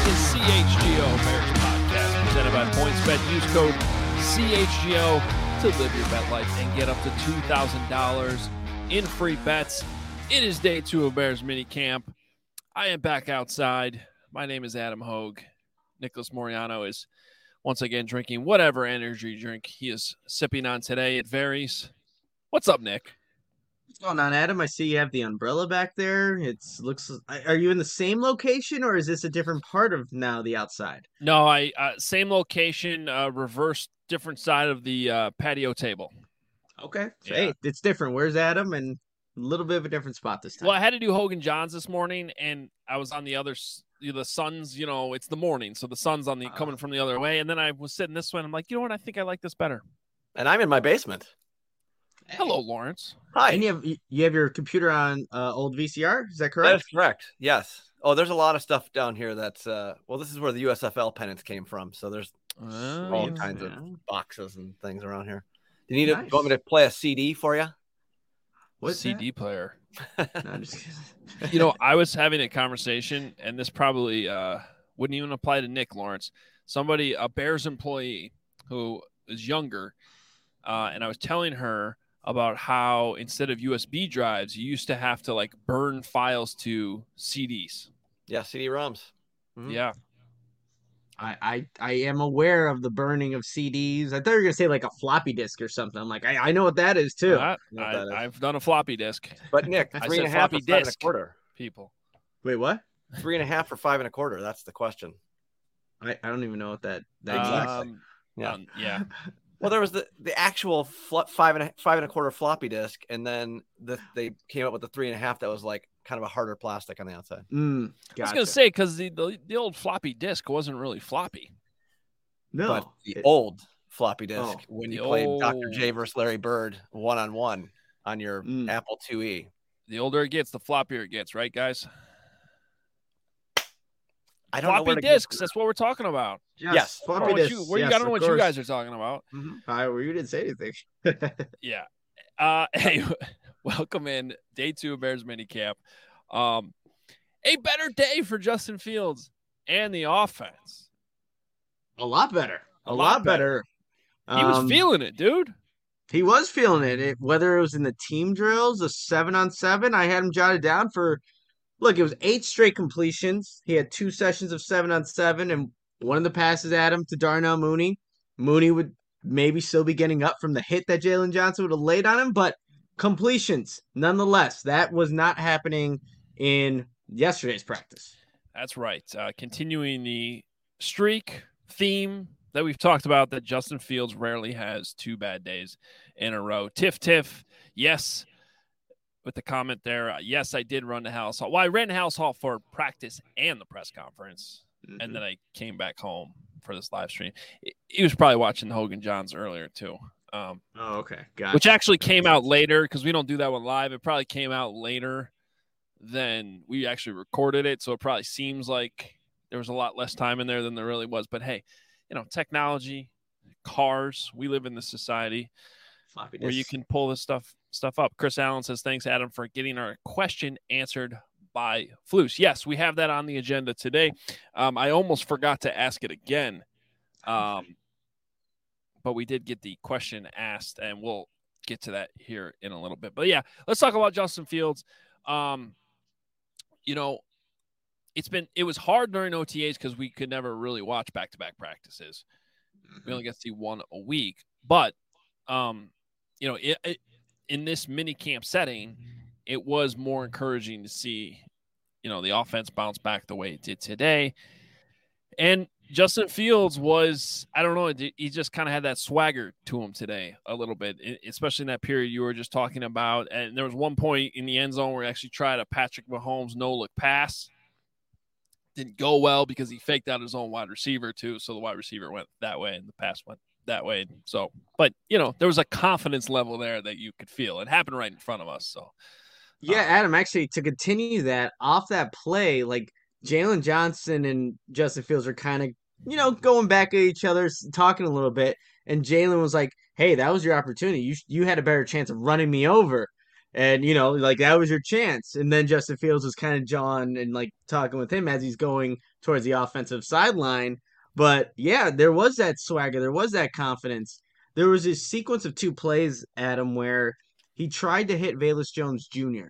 is CHGO Bears Podcast, presented by PointsBet. Use code CHGO to live your bet life and get up to $2,000 in free bets. It is day 2 of Bears mini camp. I am back outside. My name is Adam Hogue. Nicholas Moriano is once again drinking whatever energy drink he is sipping on today. It varies. What's up, Nick? What's going on, Adam? I see you have the umbrella back there. Are you in the same location, or is this a different part of now the outside? No, same location, reverse different side of the patio table. Okay. Yeah. Hey, it's different. Where's Adam? And a little bit of a different spot this time. Well, I had to do Hogan Johns this morning, and I was on the sun's, it's the morning, so the sun's on coming from the other way, and then I was sitting this way, and I'm like, you know what? I think I like this better. And I'm in my basement. Hey. Hello, Lawrence. Hi. And you have your computer on old VCR? Is that correct? That is correct. Yes. Oh, there's a lot of stuff down here that's this is where the USFL pennants came from. So there's all kinds of boxes and things around here. Do you need want me to play a CD for you? What CD player? No, I'm just kidding. I was having a conversation, and this probably wouldn't even apply to Nick, Lawrence. A Bears employee who is younger, and I was telling her about how instead of USB drives, you used to have to burn files to CDs. Yeah, CD-ROMs. Mm-hmm. Yeah. I am aware of the burning of CDs. I thought you were going to say like a floppy disk or something. I'm like, I know what that is too. I've done a floppy disk. But Nick, 3.5 floppy for 5 disk, $1/4. People. Wait, what? 3.5 for 5 1/4. That's the question. I don't even know what that exactly. Yeah. Well, there was the actual 5 1/4 floppy disk, and then they came up with the 3.5 that was like kind of a harder plastic on the outside. Gotcha. I was going to say, because the old floppy disk wasn't really floppy. No. But the old floppy disk, when you played Dr. J versus Larry Bird 1-on-1 on your Apple IIe. The older it gets, the floppier it gets, right, guys? I don't know floppy disks. That's what we're talking about. Yes. Floppy disks. I don't know what you guys are talking about. Mm-hmm. You didn't say anything. Yeah. Hey, welcome in day 2 of Bears minicamp. A better day for Justin Fields and the offense. A lot better. A lot better. He was feeling it, dude. He was feeling it. Whether it was in the team drills, a 7-on-7, I had him jotted down for. Look, it was 8 straight completions. He had 2 sessions of 7-on-7, and one of the passes at him to Darnell Mooney. Mooney would maybe still be getting up from the hit that Jalen Johnson would have laid on him, but completions, nonetheless. That was not happening in yesterday's practice. That's right. Continuing the streak theme that we've talked about, that Justin Fields rarely has 2 bad days in a row. Tiff, yes. With the comment there, yes, I did run to Halas Hall. Well, I ran to Halas Hall for practice and the press conference, and then I came back home for this live stream. He was probably watching the Hogan Johns earlier, too. Okay. Gotcha. Which actually came out later, because we don't do that one live. It probably came out later than we actually recorded it, so it probably seems like there was a lot less time in there than there really was. But, hey, technology, cars, we live in this society where you can pull this stuff up. Chris Allen says, thanks, Adam, for getting our question answered by Flus. Yes, we have that on the agenda today. I almost forgot to ask it again, but we did get the question asked, and we'll get to that here in a little bit. But, yeah, let's talk about Justin Fields. It was hard during OTAs because we could never really watch back-to-back practices. We only get to see one a week. But, in this mini camp setting, it was more encouraging to see, the offense bounce back the way it did today. And Justin Fields was, I don't know, he just kind of had that swagger to him today a little bit, especially in that period you were just talking about. And there was one point in the end zone where he actually tried a Patrick Mahomes no-look pass. Didn't go well because he faked out his own wide receiver too. So the wide receiver went that way and the pass went that way. So, but there was a confidence level there that you could feel. It happened right in front of us. So, yeah, Adam, actually, to continue that, off that play, like Jalen Johnson and Justin Fields are kind of, going back at each other, talking a little bit. And Jalen was like, hey, that was your opportunity. You had a better chance of running me over. And, like that was your chance. And then Justin Fields was kind of jawing and like talking with him as he's going towards the offensive sideline. But yeah, there was that swagger. There was that confidence. There was this sequence of 2 plays, Adam, where he tried to hit Velus Jones Jr.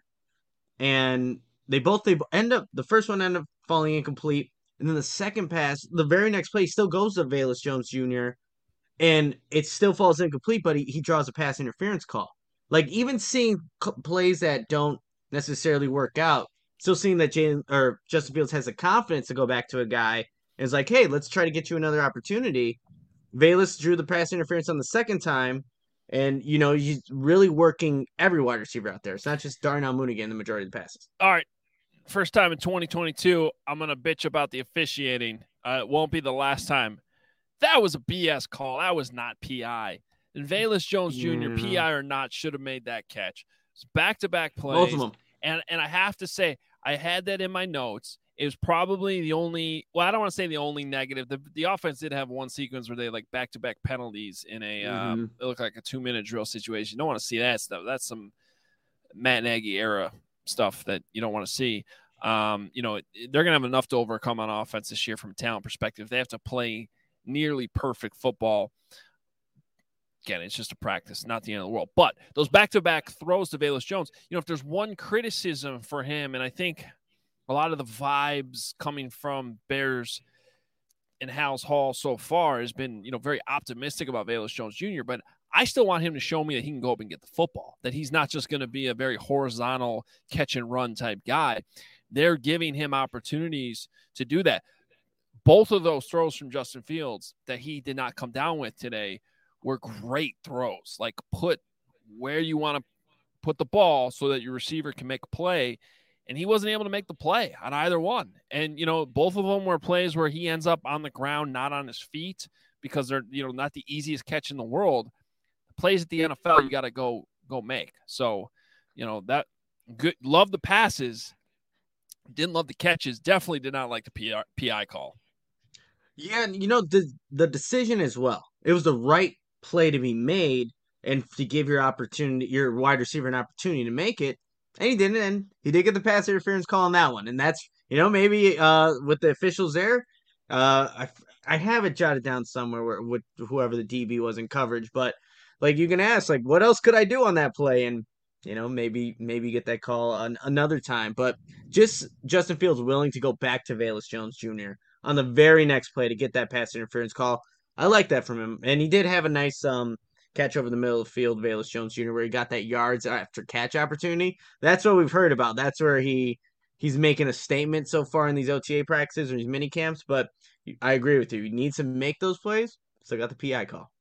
And they end up, the first one ended up falling incomplete. And then the second pass, the very next play still goes to Velus Jones Jr. and it still falls incomplete, but he draws a pass interference call. Like even seeing plays that don't necessarily work out, still seeing that Justin Fields has the confidence to go back to a guy and is like, hey, let's try to get you another opportunity. Velus drew the pass interference on the second time, and he's really working every wide receiver out there. It's not just Darnell Mooney getting the majority of the passes. All right. First time in 2022, I'm going to bitch about the officiating. It won't be the last time. That was a BS call. That was not PI. And Velus Jones Jr., PI or not, should have made that catch. It's back-to-back plays. Both of them. And I have to say, I had that in my notes. It was probably the only – well, I don't want to say the only negative. The offense did have one sequence where they like back-to-back penalties in a it looked like a 2-minute drill situation. You don't want to see that stuff. That's some Matt Nagy era stuff that you don't want to see. They're going to have enough to overcome on offense this year from a talent perspective. They have to play nearly perfect football. Again, it's just a practice, not the end of the world. But those back-to-back throws to Velus Jones, if there's one criticism for him, and I think a lot of the vibes coming from Bears and House Hall so far has been, very optimistic about Velus Jones Jr., but I still want him to show me that he can go up and get the football, that he's not just going to be a very horizontal catch-and-run type guy. They're giving him opportunities to do that. Both of those throws from Justin Fields that he did not come down with today were great throws. Like put where you want to put the ball so that your receiver can make a play. And he wasn't able to make the play on either one. And, both of them were plays where he ends up on the ground, not on his feet, because they're, not the easiest catch in the world. The plays at the NFL, you got to go make. So, that good. Love the passes. Didn't love the catches. Definitely did not like the PI call. Yeah, the decision as well. It was the right play to be made and to give your wide receiver an opportunity to make it. And he didn't, and he did get the pass interference call on that one. And that's, maybe with the officials there, I have it jotted down somewhere with whoever the DB was in coverage. But, like, you can ask, like, what else could I do on that play? And, maybe get that call another time. But just Justin Fields willing to go back to Velus Jones Jr. on the very next play to get that pass interference call. I like that from him. And he did have a nice catch over the middle of the field, Velus Jones Jr., where he got that yards after catch opportunity. That's what we've heard about. That's where he's making a statement so far in these OTA practices or these mini camps. But I agree with you. He needs to make those plays. So I got the PI call.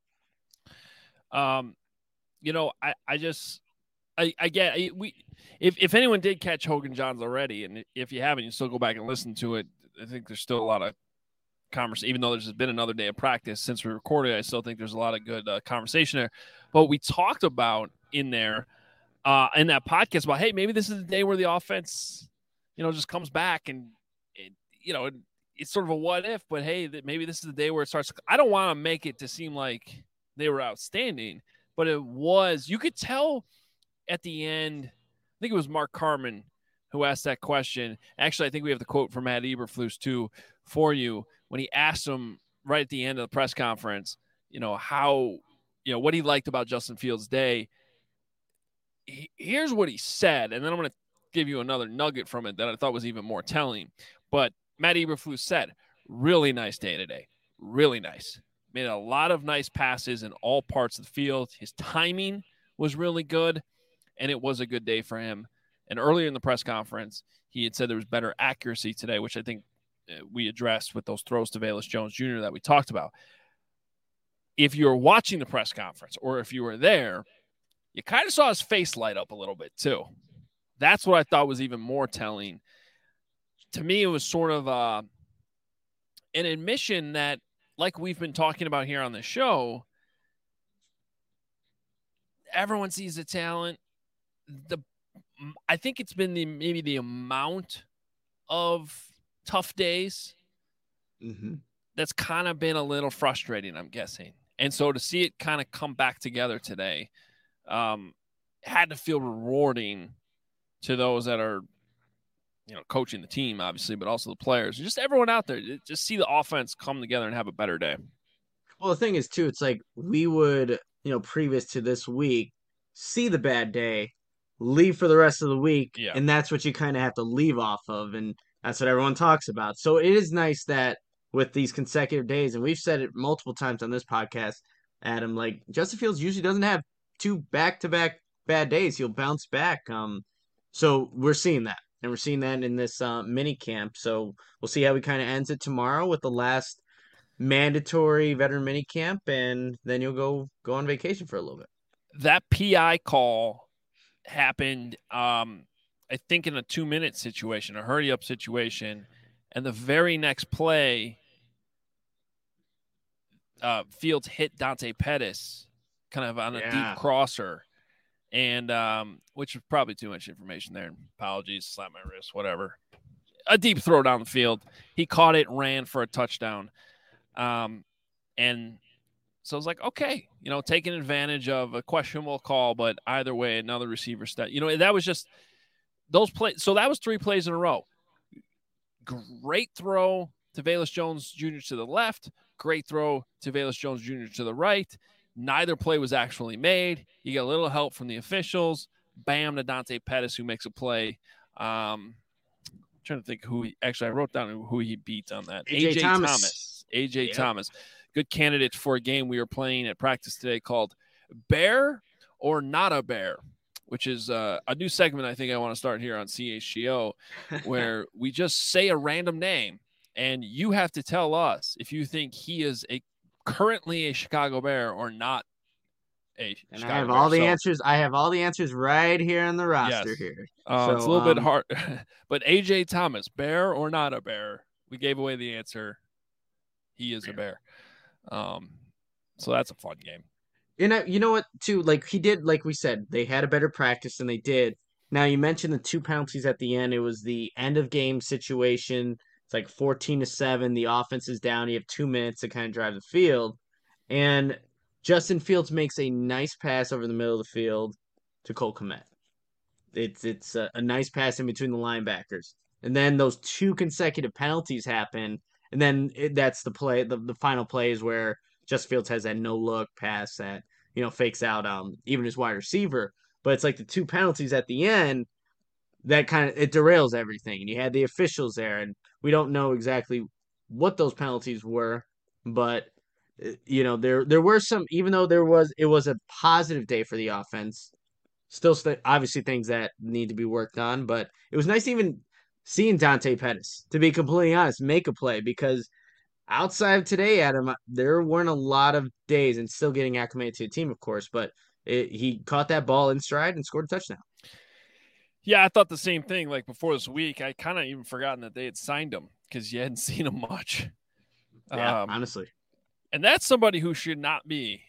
I get if anyone did catch Hogan Johns already, and if you haven't, you still go back and listen to it. I think there's still a lot of conversation, even though there's been another day of practice since we recorded. I still think there's a lot of good conversation there. But we talked about in there in that podcast about, hey, maybe this is the day where the offense, just comes back and it's sort of a what if, but hey, maybe this is the day where it starts. I don't want to make it to seem like they were outstanding, but it was. You could tell at the end. I think it was Mark Carman who asked that question. Actually, I think we have the quote from Matt Eberflus too for you when he asked him right at the end of the press conference, how, what he liked about Justin Fields' day. Here's what he said, and then I'm going to give you another nugget from it that I thought was even more telling. But Matt Eberflus said, really nice day today. Really nice. Made a lot of nice passes in all parts of the field. His timing was really good, and it was a good day for him. And earlier in the press conference, he had said there was better accuracy today, which I think we addressed with those throws to Velus Jones Jr. that we talked about. If you were watching the press conference or if you were there, you kind of saw his face light up a little bit too. That's what I thought was even more telling. To me, it was sort of an admission that, like we've been talking about here on the show, everyone sees the talent. I think it's been maybe the amount of tough days that's kind of been a little frustrating, I'm guessing. And so to see it kind of come back together today, had to feel rewarding to those that are, coaching the team, obviously, but also the players, just everyone out there. Just see the offense come together and have a better day. Well, the thing is, too, it's like we would, previous to this week, see the bad day, leave for the rest of the week, and that's what you kind of have to leave off of, and that's what everyone talks about. So it is nice that with these consecutive days, and we've said it multiple times on this podcast, Adam, like Justin Fields usually doesn't have 2 back-to-back bad days. He'll bounce back. So we're seeing that, and we're seeing that in this mini camp. So we'll see how he kind of ends it tomorrow with the last mandatory veteran mini camp, and then you'll go on vacation for a little bit. That PI call happened, I think, in a 2-minute situation, a hurry-up situation, and the very next play, Fields hit Dante Pettis kind of on a deep crosser, and which was probably too much information there. Apologies, slap my wrist, whatever. A deep throw down the field. He caught it, ran for a touchdown. And so I was like, okay, taking advantage of a questionable call, but either way, another receiver step. That was just those plays. So that was 3 plays in a row. Great throw to Velus Jones Jr. to the left. Great throw to Velus Jones Jr. to the right. Neither play was actually made. You get a little help from the officials. Bam, to Dante Pettis, who makes a play. I'm trying to think I wrote down who he beat on that. A.J. Thomas. A.J. Thomas. Good candidate for a game we were playing at practice today called Bear or Not a Bear, which is a new segment I think I want to start here on CHGO, where we just say a random name, and you have to tell us if you think he is currently a Chicago Bear or not a and Chicago I have Bear. all the answers. I have all the answers right here on the roster here. So, it's a little bit hard. But A.J. Thomas, Bear or not a Bear? We gave away the answer. He is a Bear. So that's a fun game. You know what, too? Like he did, like we said, they had a better practice than they did. Now, you mentioned the 2 penalties at the end. It was the end of game situation. It's like 14-7. The offense is down. You have 2 minutes to kind of drive the field. And Justin Fields makes a nice pass over the middle of the field to Cole Kmet. It's a nice pass in between the linebackers. And then those 2 consecutive penalties happen. And then that's the play. The final play is where Justin Fields has that no-look pass that, fakes out even his wide receiver. But it's like the 2 penalties at the end that kind of it derails everything. And you had the officials there, and we don't know exactly what those penalties were, but there were some. Even though it was a positive day for the offense, still obviously things that need to be worked on. But it was nice even seeing Dante Pettis, to be completely honest, make a play, because outside of today, Adam, there weren't a lot of days, and still getting acclimated to the team, of course, but he caught that ball in stride and scored a touchdown. Yeah, I thought the same thing. Like before this week, I kind of even forgotten that they had signed him because you hadn't seen him much. Yeah, honestly. And that's somebody who should not be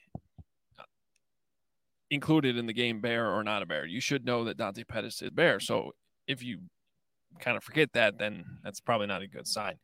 included in the game, Bear or not a Bear. You should know that Dante Pettis is Bear. So if you kind of forget that, then that's probably not a good sign.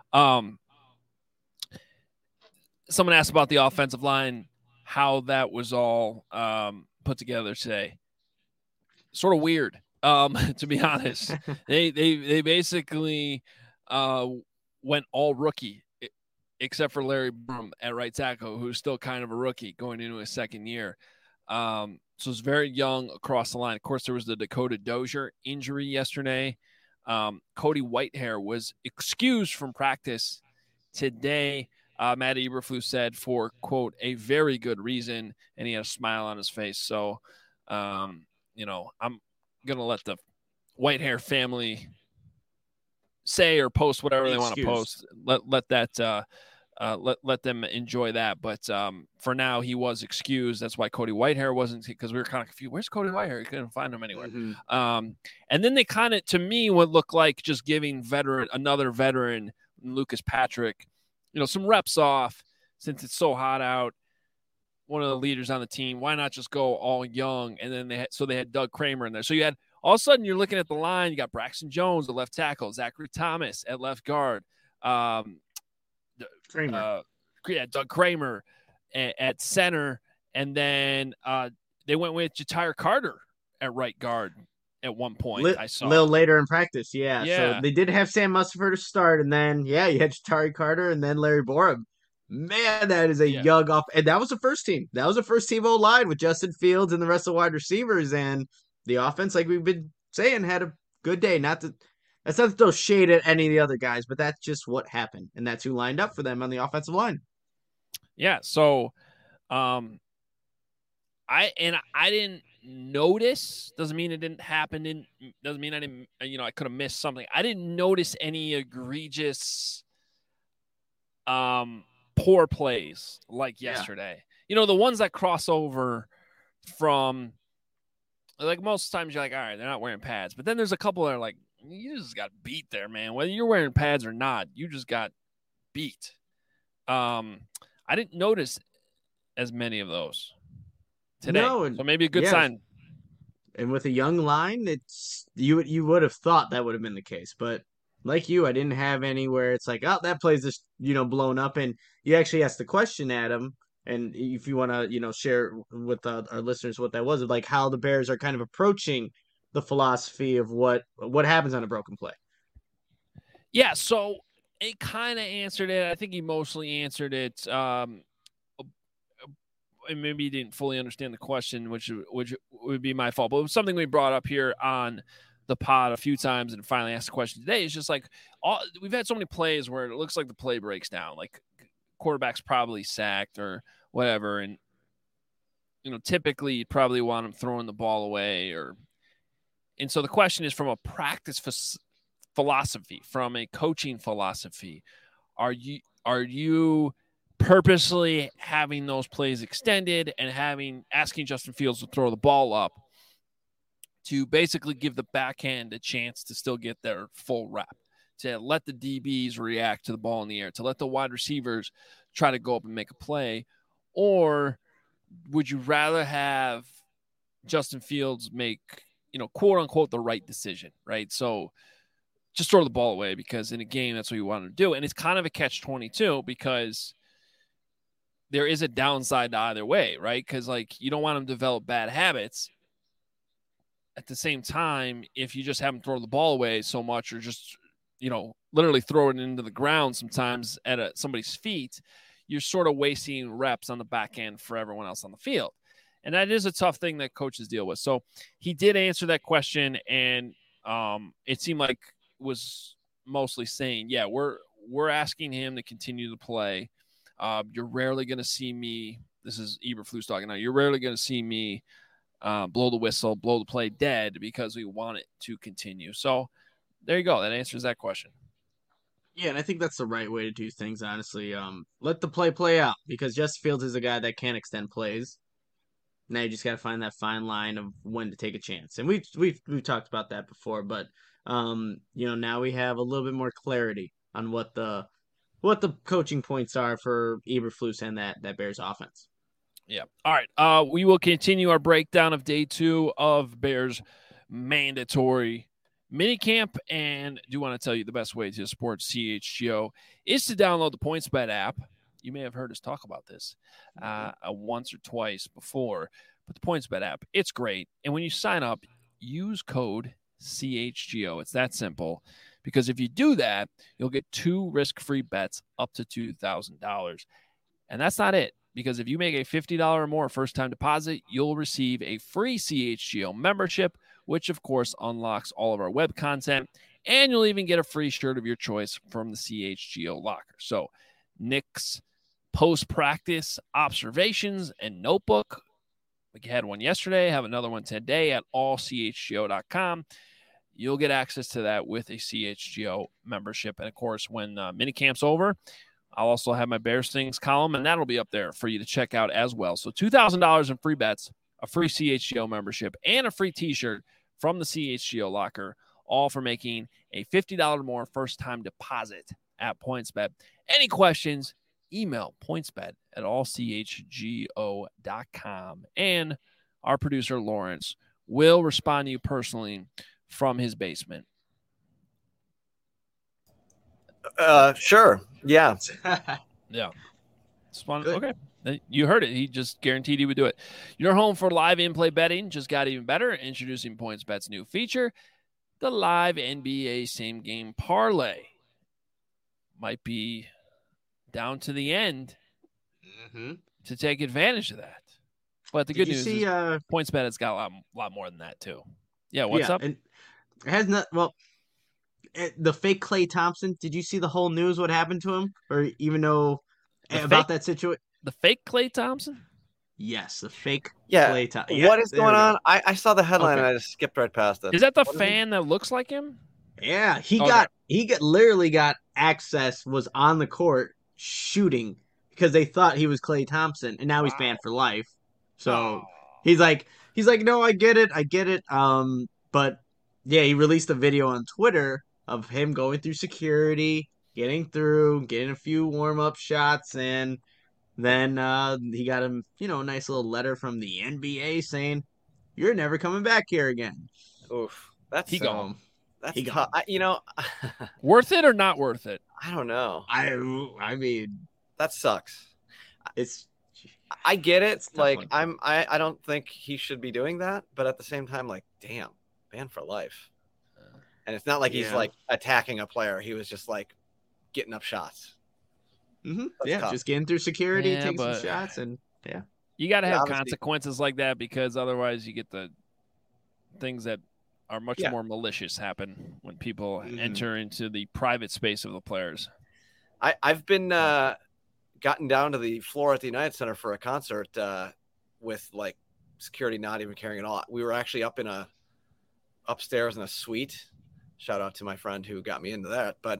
Someone asked about the offensive line, how that was all put together today. Sort of weird, to be honest. They basically went all rookie, except for Larry Broom at right tackle, who's still kind of a rookie going into his second year. So it's very young across the line. Of course, there was the Dakota Dozier injury yesterday. Cody Whitehair was excused from practice today. Matt Eberflus said for, quote, a very good reason, and he had a smile on his face. So, I'm going to let the Whitehair family say or post whatever they want to post. Let that let them enjoy that. But for now, he was excused. That's why Cody Whitehair wasn't, because we were kind of confused. Where's Cody Whitehair? You couldn't find him anywhere. Mm-hmm. And then they kind of, to me, would look like just giving another veteran, Lucas Patrick, some reps off, since it's so hot out. One of the leaders on the team. Why not just go all young? And then they had Doug Kramer in there. So you had, all of a sudden, you're looking at the line. You got Braxton Jones, the left tackle, Zachary Thomas at left guard, Kramer. Doug Kramer at center, and then they went with Ja'Tyre Carter at right guard at one point. I saw a little later in practice. Yeah. Yeah. So they did have Sam Mustipher to start, and then you had Ja'Tari Carter and then Larry Borum. Man, that is a young off, and that was the first team. That was the first team O line with Justin Fields and the rest of the wide receivers, and the offense, like we've been saying, had a good day. That's not to throw shade at any of the other guys, but that's just what happened, and that's who lined up for them on the offensive line. Yeah. So, I didn't notice. Doesn't mean it didn't happen. Doesn't mean I didn't. I could have missed something. I didn't notice any egregious, poor plays like yesterday. The ones that cross over from, like, most times you're like, all right, they're not wearing pads. But then there's a couple that are like, you just got beat there, man. Whether you're wearing pads or not, you just got beat. I didn't notice as many of those today. So maybe a good sign. And with a young line, it's you would have thought that would have been the case. But like you, I didn't have any where it's like, oh, that play's just, blown up. And you actually asked the question, Adam, and if you want to, share with our listeners what that was, of like how the Bears are kind of approaching the philosophy of what happens on a broken play. Yeah, so it kind of answered it. I think he mostly answered it. And maybe he didn't fully understand the question, which would be my fault. But it was something we brought up here on the pod a few times and finally asked the question today. It's just like we've had so many plays where it looks like the play breaks down, like quarterback's probably sacked or whatever. And, typically you'd probably want him throwing the ball away and so the question is, from a practice philosophy, from a coaching philosophy, are you purposely having those plays extended and asking Justin Fields to throw the ball up to basically give the backhand a chance to still get their full rep, to let the DBs react to the ball in the air, to let the wide receivers try to go up and make a play? Or would you rather have Justin Fields make, quote unquote, the right decision, right? So just throw the ball away, because in a game, that's what you want to do. And it's kind of a catch-22 because there is a downside to either way, right? Because, like, you don't want them to develop bad habits. At the same time, if you just have them throw the ball away so much, or just, literally throw it into the ground sometimes at somebody's feet, you're sort of wasting reps on the back end for everyone else on the field. And that is a tough thing that coaches deal with. So he did answer that question, and it seemed like was mostly saying, yeah, we're asking him to continue to play. You're rarely going to see me. This is Eberflus talking now. You're rarely going to see me blow the whistle, blow the play dead, because we want it to continue. So there you go. That answers that question. Yeah, and I think that's the right way to do things, honestly. Let the play out, because Justin Fields is a guy that can extend plays. Now you just got to find that fine line of when to take a chance. And we've talked about that before, but now we have a little bit more clarity on what the coaching points are for Eberflus and that Bears offense. Yeah. All right. We will continue our breakdown of day 2 of Bears mandatory minicamp, and do want to tell you the best way to support CHGO is to download the PointsBet app. You may have heard us talk about this once or twice before, but the PointsBet app, it's great. And when you sign up, use code CHGO. It's that simple, because if you do that, you'll get 2 risk-free bets up to $2,000. And that's not it, because if you make a $50 or more first-time deposit, you'll receive a free CHGO membership, which, of course, unlocks all of our web content, and you'll even get a free shirt of your choice from the CHGO locker. So Nick's post-practice observations and notebook, like you had one yesterday, have another one today at allchgo.com. You'll get access to that with a CHGO membership. And, of course, when minicamp's over, I'll also have my Bears Things column, and that'll be up there for you to check out as well. So $2,000 in free bets, a free CHGO membership, and a free T-shirt from the CHGO locker, all for making a $50 or more first-time deposit at PointsBet. Any questions, email pointsbet@allchgo.com. And our producer, Lawrence, will respond to you personally from his basement. Sure. Yeah. Yeah. It's fun. Okay. You heard it. He just guaranteed he would do it. Your home for live in-play betting just got even better. Introducing PointsBet's new feature, the live NBA same-game parlay. Might be down to the end to take advantage of that. But the good news is PointsBet has got a lot more than that too. Yeah, what's up? And it has not. Well, the fake Klay Thompson. Did you see the whole news? What happened to him, or even know about that situation? The fake Klay Thompson? Yes, the fake Klay Thompson. What is going on? I saw the headline and I just skipped right past it. Is that the fan that looks like him? Yeah, he literally got access. Was on the court shooting because they thought he was Klay Thompson, and now he's banned for life. So he's like, no, I get it. But yeah, he released a video on Twitter of him going through security, getting a few warm-up shots, and then he got him, a nice little letter from the NBA saying, "You're never coming back here again." Oof, that's gone. That's tough. Worth it or not worth it? I don't know. I mean, that sucks. I get it. Like I don't think he should be doing that, but at the same time, like, damn, banned for life. And it's not like he's like attacking a player. He was just like getting up shots. Yeah, tough. Just getting through security, taking some shots, and you got to have consequences like that because otherwise you get the things that are much more malicious happen when people enter into the private space of the players. I've been gotten down to the floor at the United Center for a concert with like security not even caring at all. We were actually upstairs in a suite. Shout out to my friend who got me into that. But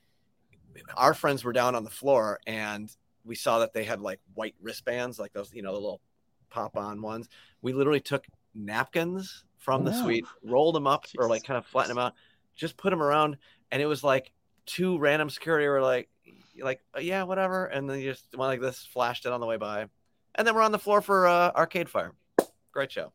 our friends were down on the floor and we saw that they had like white wristbands, like those, the little pop-on ones. We literally took napkins from the suite, rolled them up or like kind of flattened them out, just put them around. And it was like two random security were like, yeah, whatever. And then you just went like this, flashed it on the way by. And then we're on the floor for Arcade Fire. Great show.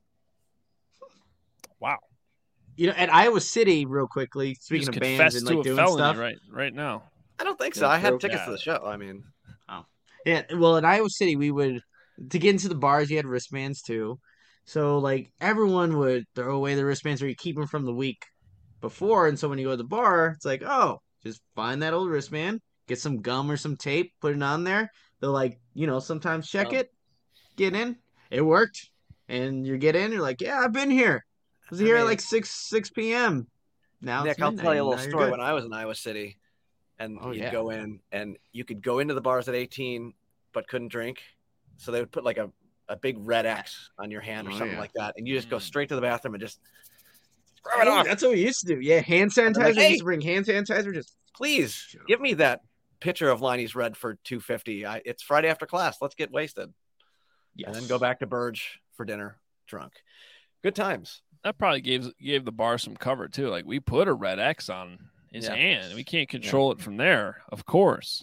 Wow. At Iowa City, real quickly, speaking of bands and like doing stuff right now. I don't think so. I had tickets to the show. I mean, yeah. Well, in Iowa City, we would to get into the bars. You had wristbands too, so like everyone would throw away the wristbands or you keep them from the week before. And so when you go to the bar, it's like, oh, just find that old wristband, get some gum or some tape, put it on there. They'll like, sometimes check it, get in. It worked, and you get in. You're like, yeah, I've been here. I was here at like 6 p.m. Now, Nick, I'll tell you a little story. When I was in Iowa City, and you'd go in, and you could go into the bars at 18, but couldn't drink. So they would put like a big red X on your hand or something like that, and you just go straight to the bathroom and just throw it off. That's what we used to do. Yeah, hand sanitizer. Like, hey, used to bring hand sanitizer. Just please give me that pitcher of Liney's Red for $2.50. It's Friday after class. Let's get wasted, and then go back to Burge for dinner, drunk. Good times. That probably gave the bar some cover too. Like we put a red X on his hand. We can't control it from there, of course.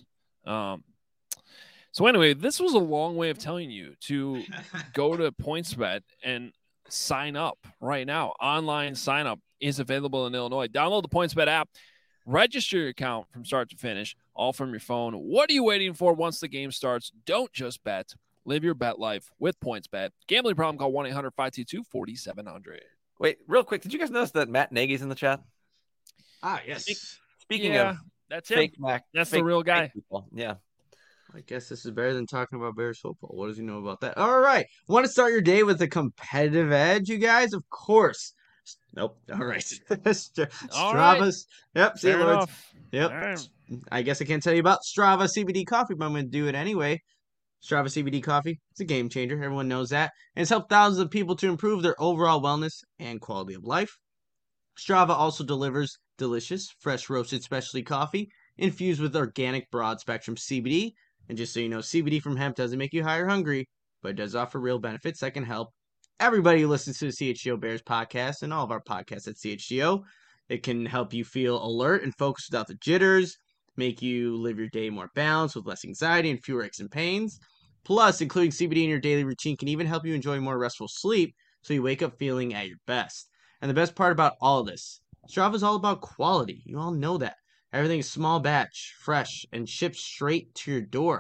So anyway, this was a long way of telling you to go to PointsBet and sign up right now. Online sign up is available in Illinois. Download the PointsBet app, register your account from start to finish, all from your phone. What are you waiting for once the game starts? Don't just bet. Live your bet life with PointsBet. Gambling problem, call 1-800-522-4700. Wait, real quick, did you guys notice that Matt Nagy's in the chat? Yes. Speaking of that's him. That's the real guy. Yeah. I guess this is better than talking about Bears football. What does he know about that? All right. Want to start your day with a competitive edge, you guys? Of course. Nope. All right. Strava's. Yep. See you, Lords. Yep. Right. I guess I can't tell you about Strava CBD coffee, but I'm going to do it anyway. Strava CBD coffee. It's a game changer. Everyone knows that. And it's helped thousands of people to improve their overall wellness and quality of life. Strava also delivers delicious, fresh roasted specialty coffee infused with organic broad spectrum CBD. And just so you know, CBD from hemp doesn't make you high or hungry, but it does offer real benefits that can help everybody who listens to the CHGO Bears podcast and all of our podcasts at CHGO. It can help you feel alert and focused without the jitters, make you live your day more balanced with less anxiety and fewer aches and pains. Plus, including CBD in your daily routine can even help you enjoy more restful sleep so you wake up feeling at your best. And the best part about all of this, Strava is all about quality. You all know that. Everything is small batch, fresh, and shipped straight to your door.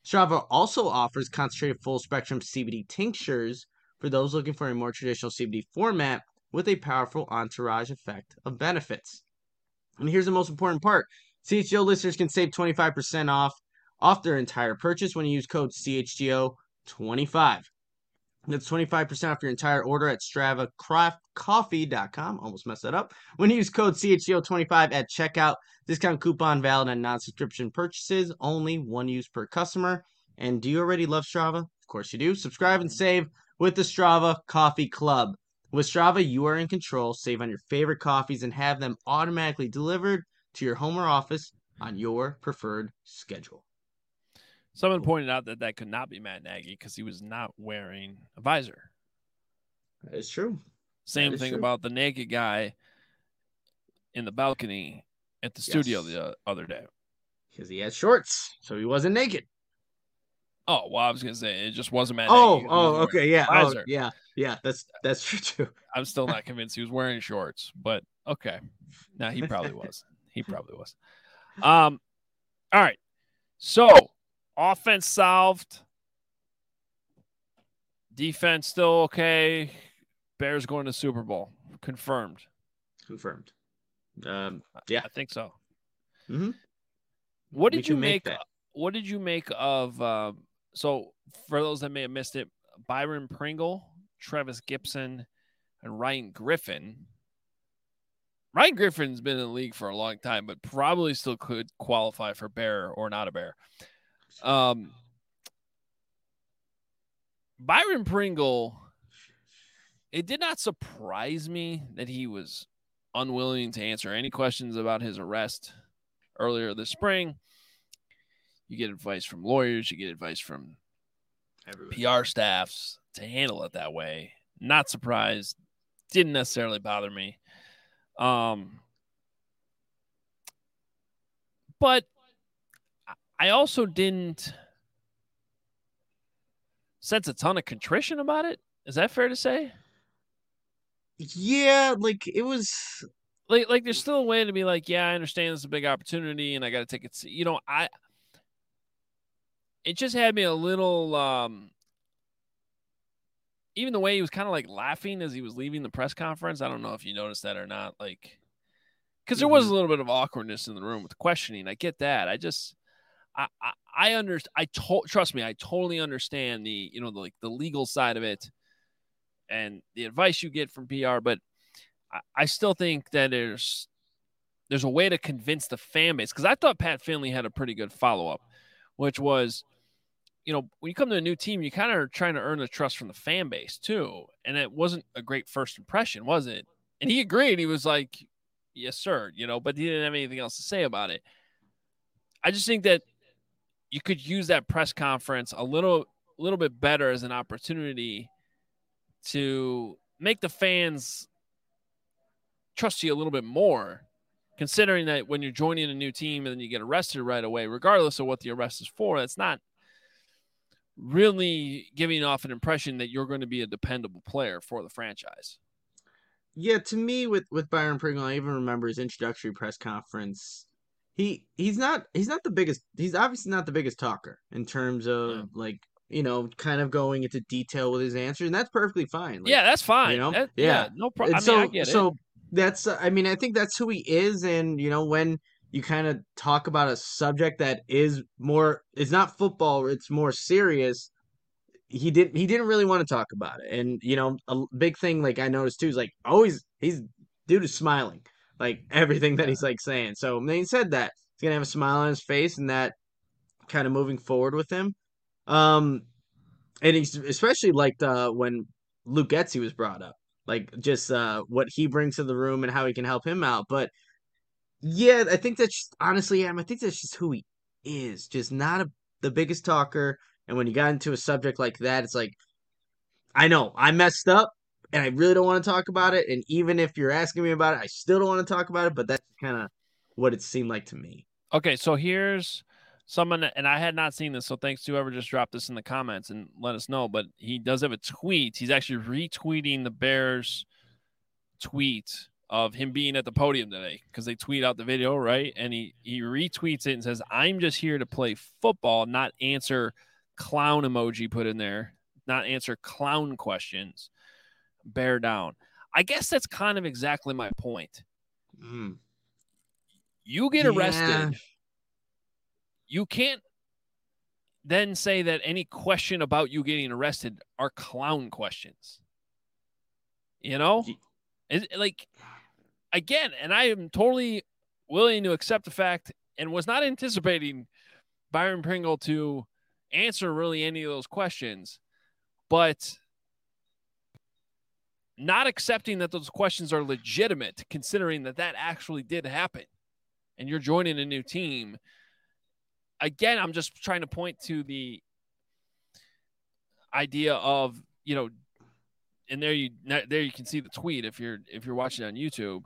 Strava also offers concentrated full-spectrum CBD tinctures for those looking for a more traditional CBD format with a powerful entourage effect of benefits. And here's the most important part. CHGO listeners can save 25% off their entire purchase when you use code CHGO25. That's 25% off your entire order at StravaCraftCoffee.com. Almost messed that up. When you use code CHGO25 at checkout, discount coupon valid on non-subscription purchases, only one use per customer. And do you already love Strava? Of course you do. Subscribe and save with the Strava Coffee Club. With Strava, you are in control. Save on your favorite coffees and have them automatically delivered to your home or office on your preferred schedule. Someone pointed out that could not be Matt Nagy because he was not wearing a visor. That is true. Same thing about the naked guy in the balcony at the studio the other day. Because he had shorts, so he wasn't naked. Oh, well, I was going to say, it just wasn't Matt Nagy. Okay, yeah. Yeah, that's true, too. I'm still not convinced he was wearing shorts, but okay. No, he probably was. All right. So, offense solved. Defense still okay. Bears going to Super Bowl. Confirmed. Yeah. I think so. Mm-hmm. What did you make of so for those that may have missed it, Byron Pringle, Travis Gibson, and Ryan Griffin. Ryan Griffin's been in the league for a long time, but probably still could qualify for Bear or not a Bear. Byron Pringle, it did not surprise me that he was unwilling to answer any questions about his arrest earlier this spring. You get advice from lawyers, you get advice from PR staffs to handle it that way. Not surprised. Didn't necessarily bother me. But I also didn't sense a ton of contrition about it. Is that fair to say? Yeah, like it was like there's still a way to be like, yeah, I understand it's a big opportunity and I got to take it. It just had me a little, even the way he was kind of like laughing as he was leaving the press conference. I don't know if you noticed that or not. Like, because there was a little bit of awkwardness in the room with the questioning. I get that. I understand. Trust me, I totally understand the legal side of it and the advice you get from PR, but I still think that there's a way to convince the fan base, because I thought Pat Finley had a pretty good follow-up, which was, when you come to a new team, you kind of are trying to earn the trust from the fan base too. And it wasn't a great first impression, was it? And he agreed. He was like, yes, sir, but he didn't have anything else to say about it. I just think that you could use that press conference a little bit better as an opportunity to make the fans trust you a little bit more, considering that when you're joining a new team and then you get arrested right away, regardless of what the arrest is for, that's not really giving off an impression that you're going to be a dependable player for the franchise. Yeah, to me, with Byron Pringle, I even remember his introductory press conference. He's obviously not the biggest talker in terms of kind of going into detail with his answers, and that's perfectly fine. Like, yeah, that's fine. No problem. I get it. So that's, I think that's who he is, and when you kind of talk about a subject that is it's not football, it's more serious. He didn't really want to talk about it, and a big thing like I noticed too is like always dude is smiling like everything that he's like saying. So when he said that he's gonna have a smile on his face, and that kind of moving forward with him. And he's especially liked when Luke Getsy was brought up, like just what he brings to the room and how he can help him out. But yeah, I think that's just, honestly, I think that's just who he is. Just not the biggest talker. And when you got into a subject like that, it's like, I know I messed up and I really don't want to talk about it. And even if you're asking me about it, I still don't want to talk about it. But that's kind of what it seemed like to me. Okay, so here's someone, and I had not seen this, so thanks to whoever just dropped this in the comments and let us know. But he does have a tweet. He's actually retweeting the Bears tweet of him being at the podium today because they tweet out the video, right? And he retweets it and says, "I'm just here to play football, not answer clown emoji put in there, not answer clown questions. Bear down." I guess that's kind of exactly my point. You get arrested. You can't then say that any question about you getting arrested are clown questions. You know? Like, again, and I am totally willing to accept the fact and was not anticipating Byron Pringle to answer really any of those questions, but not accepting that those questions are legitimate, considering that actually did happen and you're joining a new team. Again, I'm just trying to point to the idea of, and there you can see the tweet if you're watching on YouTube.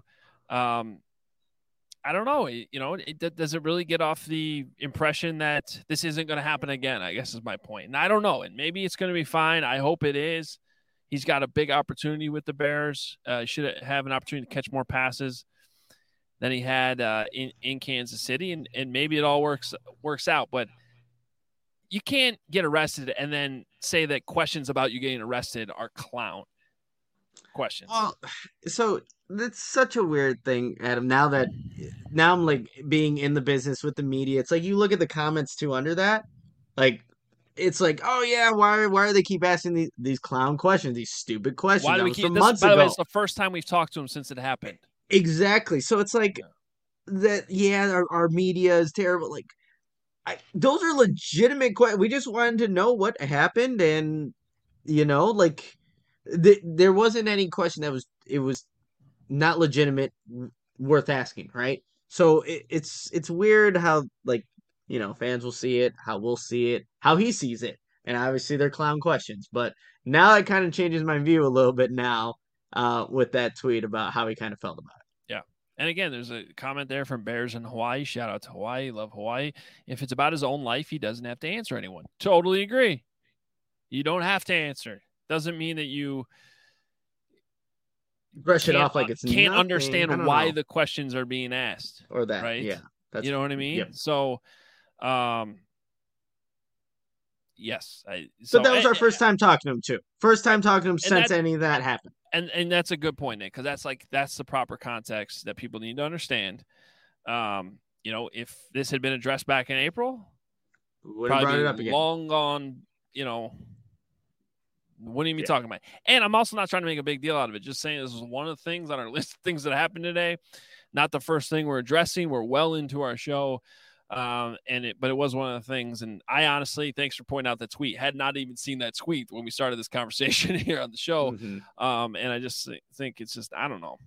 I don't know. Does it really get off the impression that this isn't going to happen again? I guess is my point. And I don't know. And maybe it's going to be fine. I hope it is. He's got a big opportunity with the Bears. Should have an opportunity to catch more passes than he had in Kansas City. And maybe it all works out. But you can't get arrested and then say that questions about you getting arrested are clown questions. Well, so that's such a weird thing, Adam. Now I'm like being in the business with the media. It's like you look at the comments too under that. Like, it's like, oh yeah, why do they keep asking these clown questions, these stupid questions? Why do we keep this? By the way, it's the first time we've talked to him since it happened. Exactly. So it's like that. Yeah, our media is terrible. Like, those are legitimate questions. We just wanted to know what happened, and like there wasn't any question that was not legitimate, worth asking, right? So it's weird how, like, fans will see it, how we'll see it, how he sees it, and obviously they're clown questions. But now it kind of changes my view a little bit now with that tweet about how he kind of felt about it. Yeah. And again, there's a comment there from Bears in Hawaii. Shout out to Hawaii. Love Hawaii. If it's about his own life, he doesn't have to answer anyone. Totally agree. You don't have to answer. Doesn't mean that you brush it off like it's can't nothing. Understand why the questions are being asked. Or that, right? Yeah. You know what I mean? Yep. So, yes. But that was our first time talking to him, too. First time talking to him since any of that happened. And that's a good point, Nick, because that's the proper context that people need to understand. If this had been addressed back in April, wouldn't brought it up again. Long gone, wouldn't even be talking about it. And I'm also not trying to make a big deal out of it. Just saying this is one of the things on our list of things that happened today. Not the first thing we're addressing. We're well into our show. But it was one of the things. And I honestly, thanks for pointing out the tweet, had not even seen that tweet when we started this conversation here on the show. Mm-hmm. And I just think it's just, I don't know.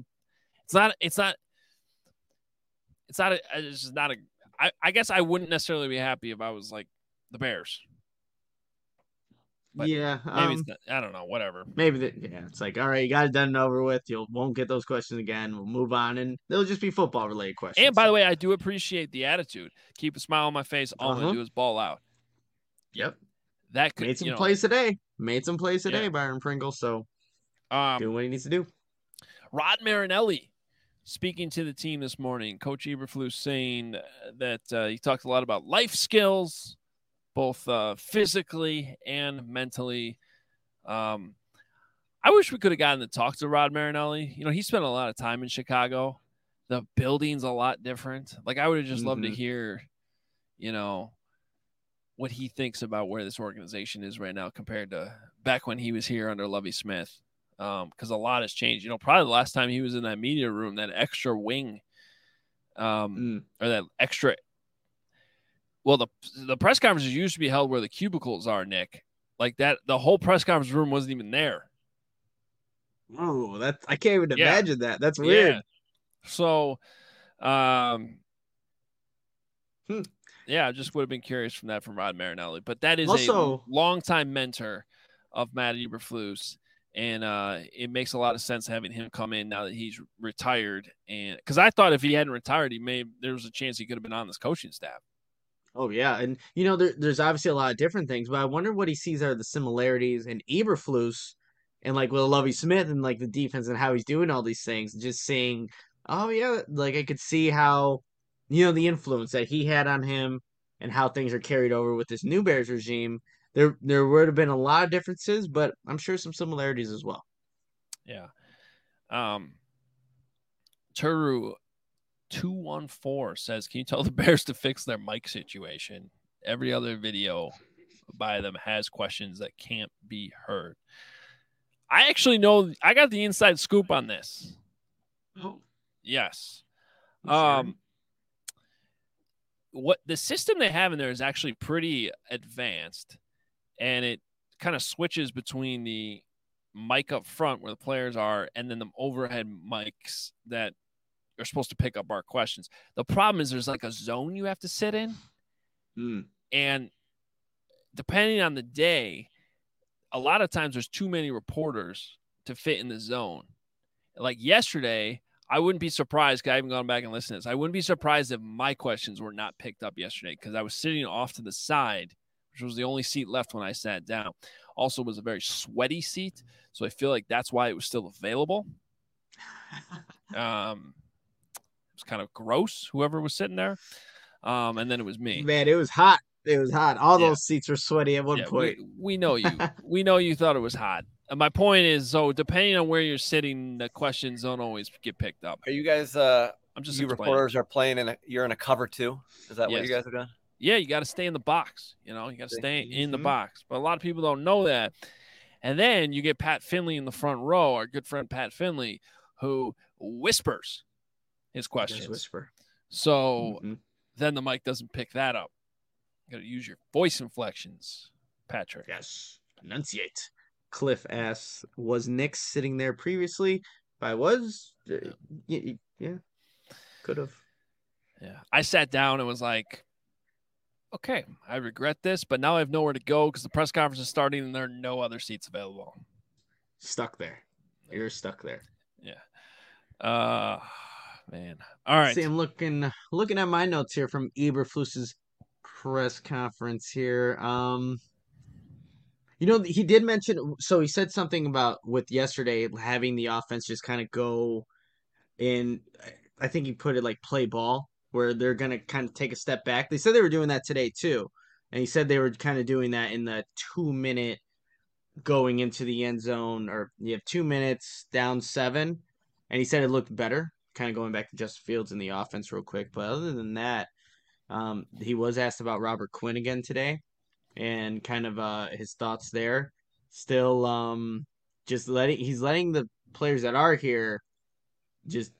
I guess I wouldn't necessarily be happy if I was like the Bears. But yeah, maybe it's not, I don't know, whatever. Maybe it's like, all right, you got it done and over with. You won't get those questions again. We'll move on, and they'll just be football related questions. And by the way, I do appreciate the attitude. Keep a smile on my face. All I'm gonna do is ball out. Yep, that could made some plays today. Byron Pringle. So, doing what he needs to do. Rod Marinelli speaking to the team this morning. Coach Eberflus saying that he talked a lot about life skills, both physically and mentally. I wish we could have gotten to talk to Rod Marinelli. He spent a lot of time in Chicago. The building's a lot different. Like, I would have just loved to hear, what he thinks about where this organization is right now compared to back when he was here under Lovie Smith. Because a lot has changed. Probably the last time he was in that media room, that extra wing, or that extra. Well, the press conferences used to be held where the cubicles are, Nick. Like that, the whole press conference room wasn't even there. Oh, I can't even imagine that. That's weird. Yeah. So, I just would have been curious from Rod Marinelli. But that is also a longtime mentor of Matt Eberflus, and it makes a lot of sense having him come in now that he's retired. And because I thought if he hadn't retired, there was a chance he could have been on this coaching staff. Oh, yeah. And, there's obviously a lot of different things, but I wonder what he sees are the similarities. And Eberflus, and like with Lovie Smith and like the defense and how he's doing all these things, just seeing, oh yeah, like I could see how, the influence that he had on him and how things are carried over with this new Bears regime. There would have been a lot of differences, but I'm sure some similarities as well. Yeah. Turu 214 says, "Can you tell the Bears to fix their mic situation? Every other video by them has questions that can't be heard." I actually know. I got the inside scoop on this. Oh, yes. sure. What the system they have in there is actually pretty advanced, and it kind of switches between the mic up front where the players are and then the overhead mics that are supposed to pick up our questions. The problem is there's like a zone you have to sit in. And depending on the day, a lot of times there's too many reporters to fit in the zone. Like yesterday, I wouldn't be surprised, because I haven't gone back and listened to this. I wouldn't be surprised if my questions were not picked up yesterday, because I was sitting off to the side, which was the only seat left when I sat down. Also was a very sweaty seat, so I feel like that's why it was still available. It was kind of gross, whoever was sitting there. And then it was me. Man, it was hot. It was hot. All those seats were sweaty at one point. We know you. We know you thought it was hot. And my point is, so depending on where you're sitting, the questions don't always get picked up. Are you guys? I'm just. You reporters are playing you're in a cover too. Is that what you guys are doing? Yeah, you got to stay in the box. You got to stay in the box. But a lot of people don't know that. And then you get Pat Finley in the front row, our good friend Pat Finley, who whispers his questions. Whisper. So then the mic doesn't pick that up. You got to use your voice inflections, Patrick. Yes, enunciate. Cliff asks, was Nick sitting there previously? If I was, yeah, could have. Yeah, I sat down and was like, okay, I regret this, but now I have nowhere to go because the press conference is starting and there are no other seats available. Stuck there. You're stuck there. Yeah. Man. All right. See, I'm looking at my notes here from Eberflus's press conference here. He did mention, so he said something about with yesterday having the offense just kind of go in. I think he put it like play ball, where they're going to kind of take a step back. They said they were doing that today too. And he said they were kind of doing that in the 2-minute going into the end zone, or you have 2 minutes down 7. And he said it looked better, kind of going back to Justin Fields in the offense real quick. But other than that, he was asked about Robert Quinn again today and kind of his thoughts there. Still, he's letting the players that are here just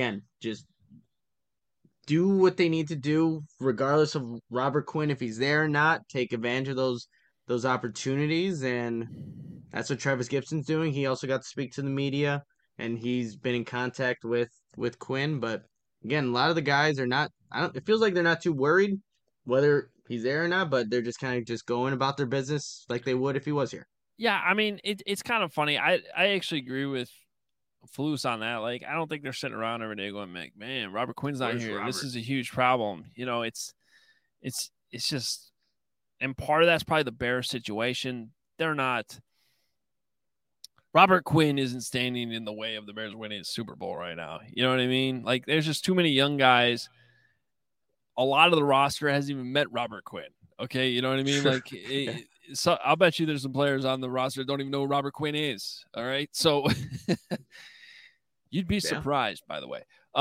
do what they need to do, regardless of Robert Quinn, if he's there or not. Take advantage of those opportunities, and that's what Travis Gibson's doing. He also got to speak to the media, and he's been in contact with Quinn. But again, a lot of the guys are not. It feels like they're not too worried whether he's there or not, but they're just kind of just going about their business like they would if he was here. Yeah, I mean, it's kind of funny. I actually agree with Flus on that. Like, I don't think they're sitting around every day going, man, Robert Quinn's not here. Robert? This is a huge problem. It's just, and part of that's probably the Bears situation. They're not. Robert Quinn isn't standing in the way of the Bears winning the Super Bowl right now. You know what I mean? Like, there's just too many young guys. A lot of the roster hasn't even met Robert Quinn. Okay, you know what I mean? Like, so I'll bet you there's some players on the roster that don't even know who Robert Quinn is. All right, so you'd be surprised, by the way.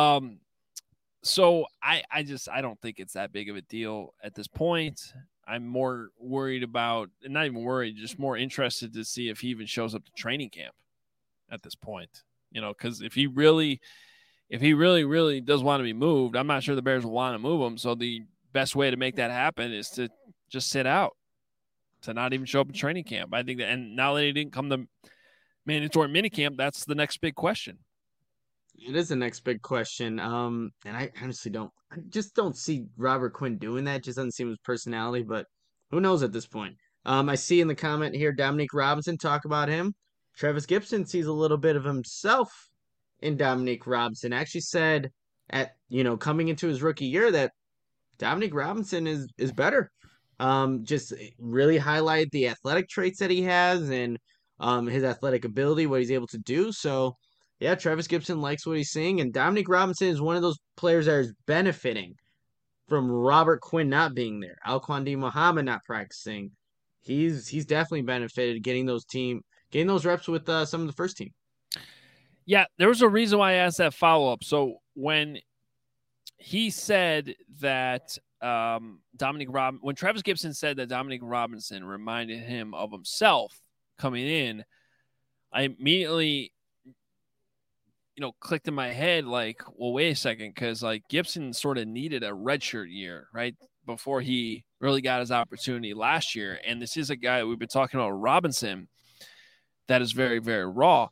So I don't think it's that big of a deal at this point. I'm more worried about, and not even worried, just more interested to see if he even shows up to training camp at this point. Because if he really does want to be moved, I'm not sure the Bears will want to move him. So the best way to make that happen is to just sit out, to not even show up in training camp. I think that, and now that he didn't come to mandatory minicamp, that's the next big question. It is the next big question. And I honestly don't see Robert Quinn doing that. It just doesn't seem his personality, but who knows at this point. I see in the comment here, Dominique Robinson talk about him. Travis Gibson sees a little bit of himself in Dominique Robinson. Actually said coming into his rookie year that Dominique Robinson is better. Just really highlight the athletic traits that he has, and his athletic ability, what he's able to do. So, yeah, Travis Gibson likes what he's seeing, and Dominique Robinson is one of those players that is benefiting from Robert Quinn not being there, Alquan D. Muhammad not practicing. He's definitely benefited getting those reps with some of the first team. Yeah, there was a reason why I asked that follow-up. So when he said that when Travis Gibson said that Dominique Robinson reminded him of himself coming in, I immediately, clicked in my head like, well, wait a second, because like Gibson sort of needed a redshirt year, right, before he really got his opportunity last year. And this is a guy we've been talking about, Robinson, that is very, very raw.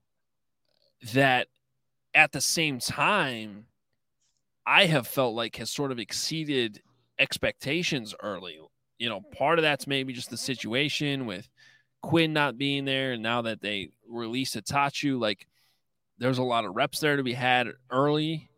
That at the same time, I have felt like has sort of exceeded expectations early. Part of that's maybe just the situation with Quinn not being there, and now that they released Itachu, like there's a lot of reps there to be had early,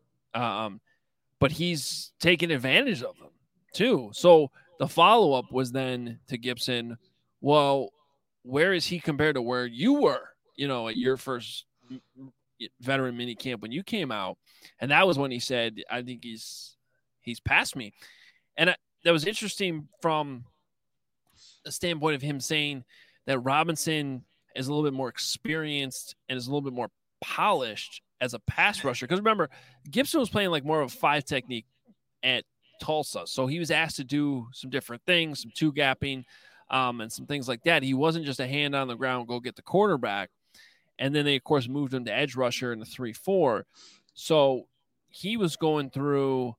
but he's taken advantage of them too. So the follow-up was then to Gibson, well, where is he compared to where you were, at your first veteran mini camp when you came out? And that was when he said, I think he's past me. And that was interesting from the standpoint of him saying that Robinson is a little bit more experienced and is a little bit more polished as a pass rusher. Because remember, Gibson was playing like more of a 5 technique at Tulsa. So he was asked to do some different things, some 2-gapping, and some things like that. He wasn't just a hand on the ground, go get the quarterback. And then they, of course, moved him to edge rusher in the 3-4. So he was going through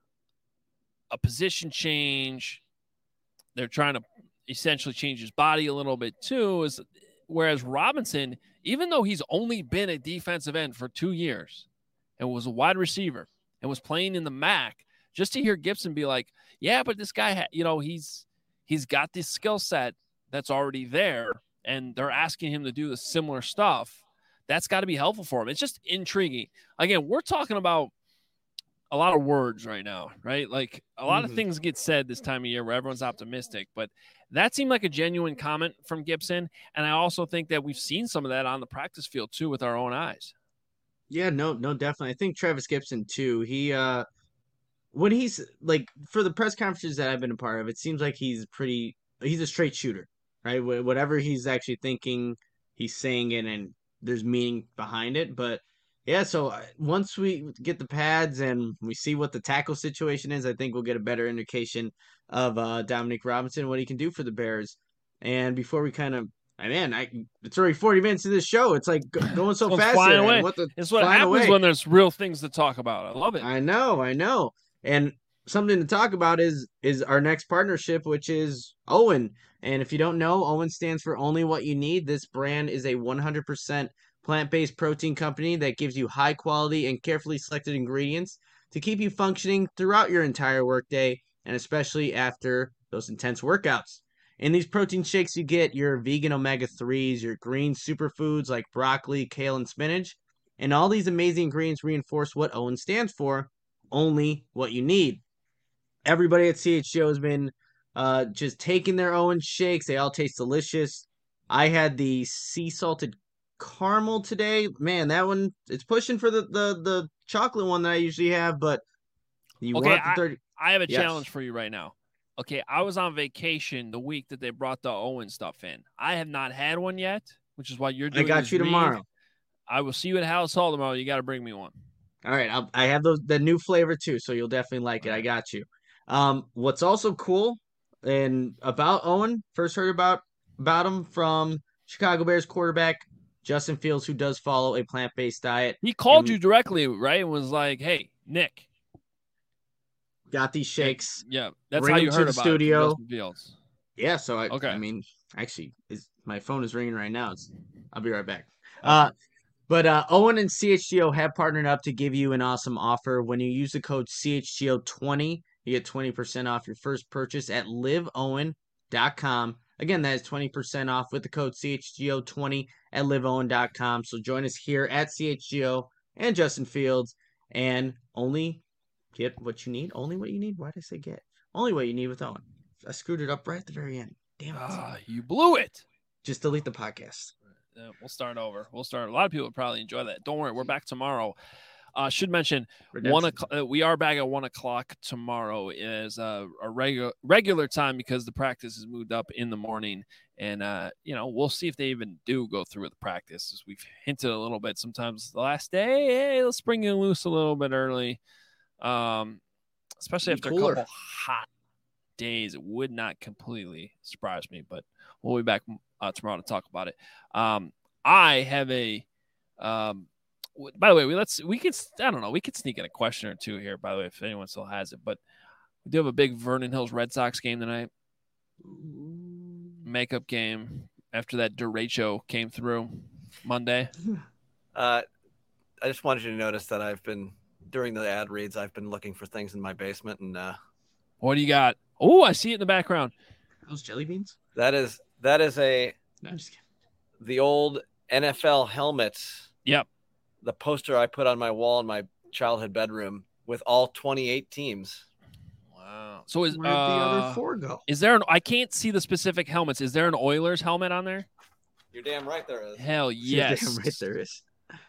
a position change. They're trying to essentially change his body a little bit too. Whereas Robinson, even though he's only been a defensive end for 2 years and was a wide receiver and was playing in the MAC, just to hear Gibson be like, yeah, but this guy, he's got this skill set that's already there, and they're asking him to do the similar stuff. That's got to be helpful for him. It's just intriguing. Again, we're talking about a lot of words right now, right? Like a lot of things get said this time of year where everyone's optimistic, but that seemed like a genuine comment from Gibson. And I also think that we've seen some of that on the practice field too with our own eyes. Yeah, no, definitely. I think Travis Gibson too. He, when he's like, for the press conferences that I've been a part of, it seems like he's a straight shooter, right? Whatever he's actually thinking, he's saying it, and there's meaning behind it. But yeah, so once we get the pads and we see what the tackle situation is, I think we'll get a better indication of Dominique Robinson, what he can do for the Bears. And before we kind of, it's already 40 minutes of this show. It's like going so fast. Flying away. It's what happens when there's real things to talk about. I love it. I know. And something to talk about is our next partnership, which is OWYN. And if you don't know, OWYN stands for Only What You Need. This brand is a 100% plant-based protein company that gives you high quality and carefully selected ingredients to keep you functioning throughout your entire workday, and especially after those intense workouts. In these protein shakes, you get your vegan omega-3s, your green superfoods like broccoli, kale, and spinach. And all these amazing ingredients reinforce what OWYN stands for, only what you need. Everybody at CHGO has been just taking their OWYN shakes. They all taste delicious. I had the sea salted caramel today. Man, that one, it's pushing for the chocolate one that I usually have, but you want the 30. I have a challenge for you right now. Okay, I was on vacation the week that they brought the OWYN stuff in. I have not had one yet, which is why you're doing. I got you tomorrow. I will see you at House Hall tomorrow. You got to bring me one. All right, I have the new flavor too, so you'll definitely like it. I got you. What's also cool and about OWYN, first heard about him from Chicago Bears quarterback Justin Fields, who does follow a plant-based diet. He called you directly, right? And was like, "Hey, Nick, got these shakes." Yeah, that's how you heard about studio. Justin Fields. Yeah, so I mean, actually, my phone is ringing right now. I'll be right back. But OWYN and CHGO have partnered up to give you an awesome offer. When you use the code CHGO20, you get 20% off your first purchase at liveowyn.com. Again, that is 20% off with the code CHGO20 at liveowyn.com. So join us here at CHGO and Justin Fields, and only get what you need. Only what you need? Why did I say get? Only what you need with OWYN. I screwed it up right at the very end. Damn it. You blew it. Just delete the podcast. We'll start over. A lot of people would probably enjoy that. Don't worry, we're back tomorrow. Should mention we are back at 1:00 tomorrow is a regular time because the practice is moved up in the morning, and we'll see if they even do go through with the practice. As we've hinted a little bit, sometimes the last day, hey, let's bring you loose a little bit early, especially after a couple hot days. It would not completely surprise me, but we'll be back tomorrow to talk about it. I have a by the way, we could sneak in a question or two here, by the way, if anyone still has it, but we do have a big Vernon Hills Red Sox game tonight. Makeup game after that derecho came through Monday. I just wanted you to notice that during the ad reads, I've been looking for things in my basement, and what do you got? Oh, I see it in the background. Those jelly beans? That is No, I'm just kidding. the old NFL helmets. Yep. The poster I put on my wall in my childhood bedroom with all 28 teams. Wow. So where'd the other 4 go? Is there I can't see the specific helmets. Is there an Oilers helmet on there? You're damn right there is. Hell yes. You're damn right there is.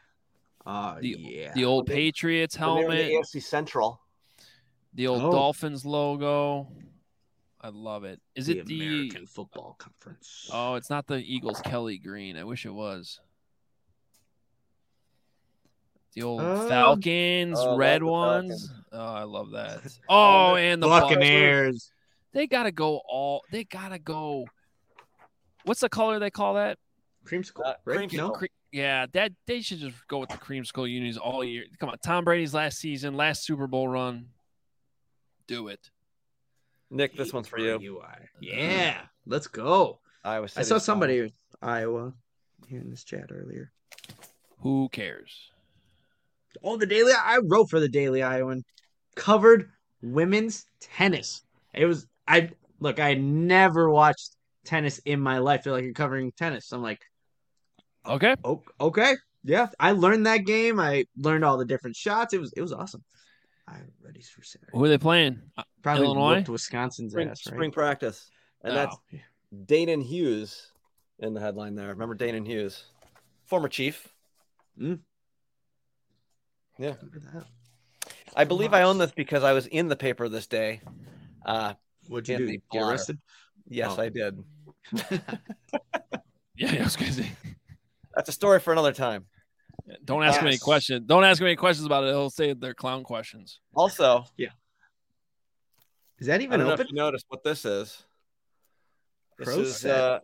The old Patriots helmet. The AFC Central. The old Dolphins logo. I love it. Is it the American Football Conference? Oh, it's not the Eagles Kelly green. I wish it was. The old Falcons, red ones. Falcons. Oh, I love that. Oh, and the Buccaneers. They gotta go. What's the color they call that? Creamsicle. Creamsicle. Yeah, they should just go with the creamsicle unis all year. Come on, Tom Brady's last season, last Super Bowl run. Do it. Nick, this one's for you. Yeah, let's go. I saw somebody Iowa here in this chat earlier. Who cares? Oh, I wrote for the Daily Iowan. Covered women's tennis. I had never watched tennis in my life. I feel like you're covering tennis. I'm like, okay. Okay. Yeah. I learned that game. I learned all the different shots. It was awesome. I'm ready for Saturday. Who are they playing? Probably Illinois? Wisconsin's ass, right? Spring practice. And that's Danon Hughes in the headline there. Remember Danon Hughes? Former Chief. Yeah. I believe I own this because I was in the paper this day. What'd you do? Get arrested? Yes, I did. Yeah, I was going to say. That's a story for another time. Don't ask me any questions. Don't ask me any questions about it. He'll say they're clown questions. Also, is that even I don't open? know if you noticed what this is. This is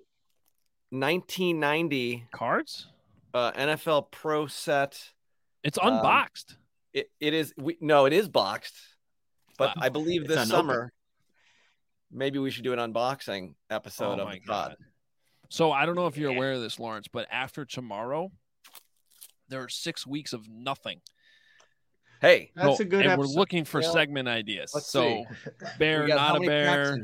1990 cards. NFL Pro Set. It's unboxed. It is. It is boxed. But I believe this summer, maybe we should do an unboxing episode of the pod. So I don't know if you're aware of this, Lawrence, but after tomorrow, there are 6 weeks of nothing. Hey, that's a good episode. We're looking for segment ideas. Let's see. Bear, not a bear.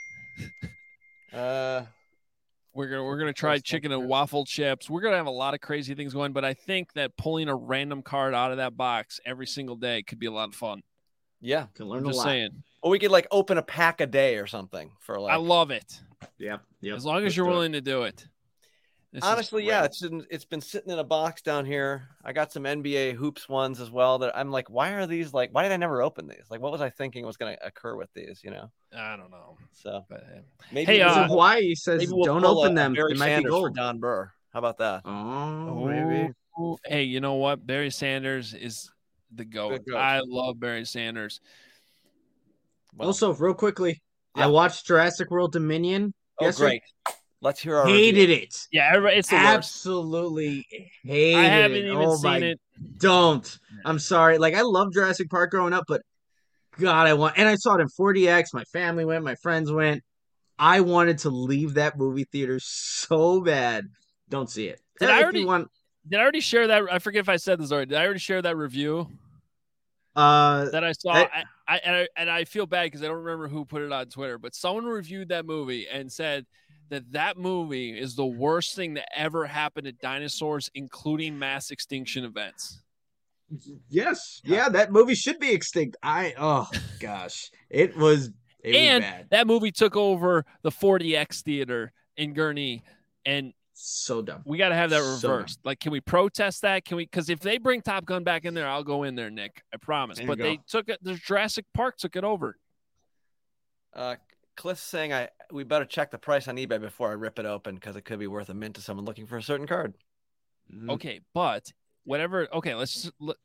We're gonna try chicken and waffle chips. We're gonna have a lot of crazy things going, but I think that pulling a random card out of that box every single day could be a lot of fun. Yeah, can learn a lot. Saying. Or we could open a pack a day or something for I love it. Yep. As long as you're willing to do it. Honestly, it's been sitting in a box down here. I got some NBA hoops ones as well that I'm like, why are these why did I never open these? What was I thinking was going to occur with these, I don't know. So maybe Hawaii says don't open them. Barry it might Sanders be gold. for Don Burr. How about that? Oh, maybe. Hey, you know what? Barry Sanders is the GOAT. I love Barry Sanders. Well, also, real quickly, I watched Jurassic World Dominion. Great. Let's hear our hated review. it. Yeah, it's the absolutely hated it. I haven't even seen it. Don't. I'm sorry. I loved Jurassic Park growing up, but God, and I saw it in 4DX. My family went, my friends went. I wanted to leave that movie theater so bad. Don't see it. Did I already share that? I forget if I said this already. Did I already share that review? That I saw, I feel bad because I don't remember who put it on Twitter, but someone reviewed that movie and said that movie is the worst thing that ever happened to dinosaurs, including mass extinction events. Yes, yeah, that movie should be extinct. Gosh, it was bad. That movie took over the 4DX theater in Gurnee, and So dumb. We got to have that So reversed. Like, can we protest that? Can we? Because if they bring Top Gun back in there, I'll go in there, Nick. I promise. But they took it. There's Jurassic Park took it over. Cliff's saying we better check the price on eBay before I rip it open because it could be worth a mint to someone looking for a certain card. Okay, but whatever. Okay, let's look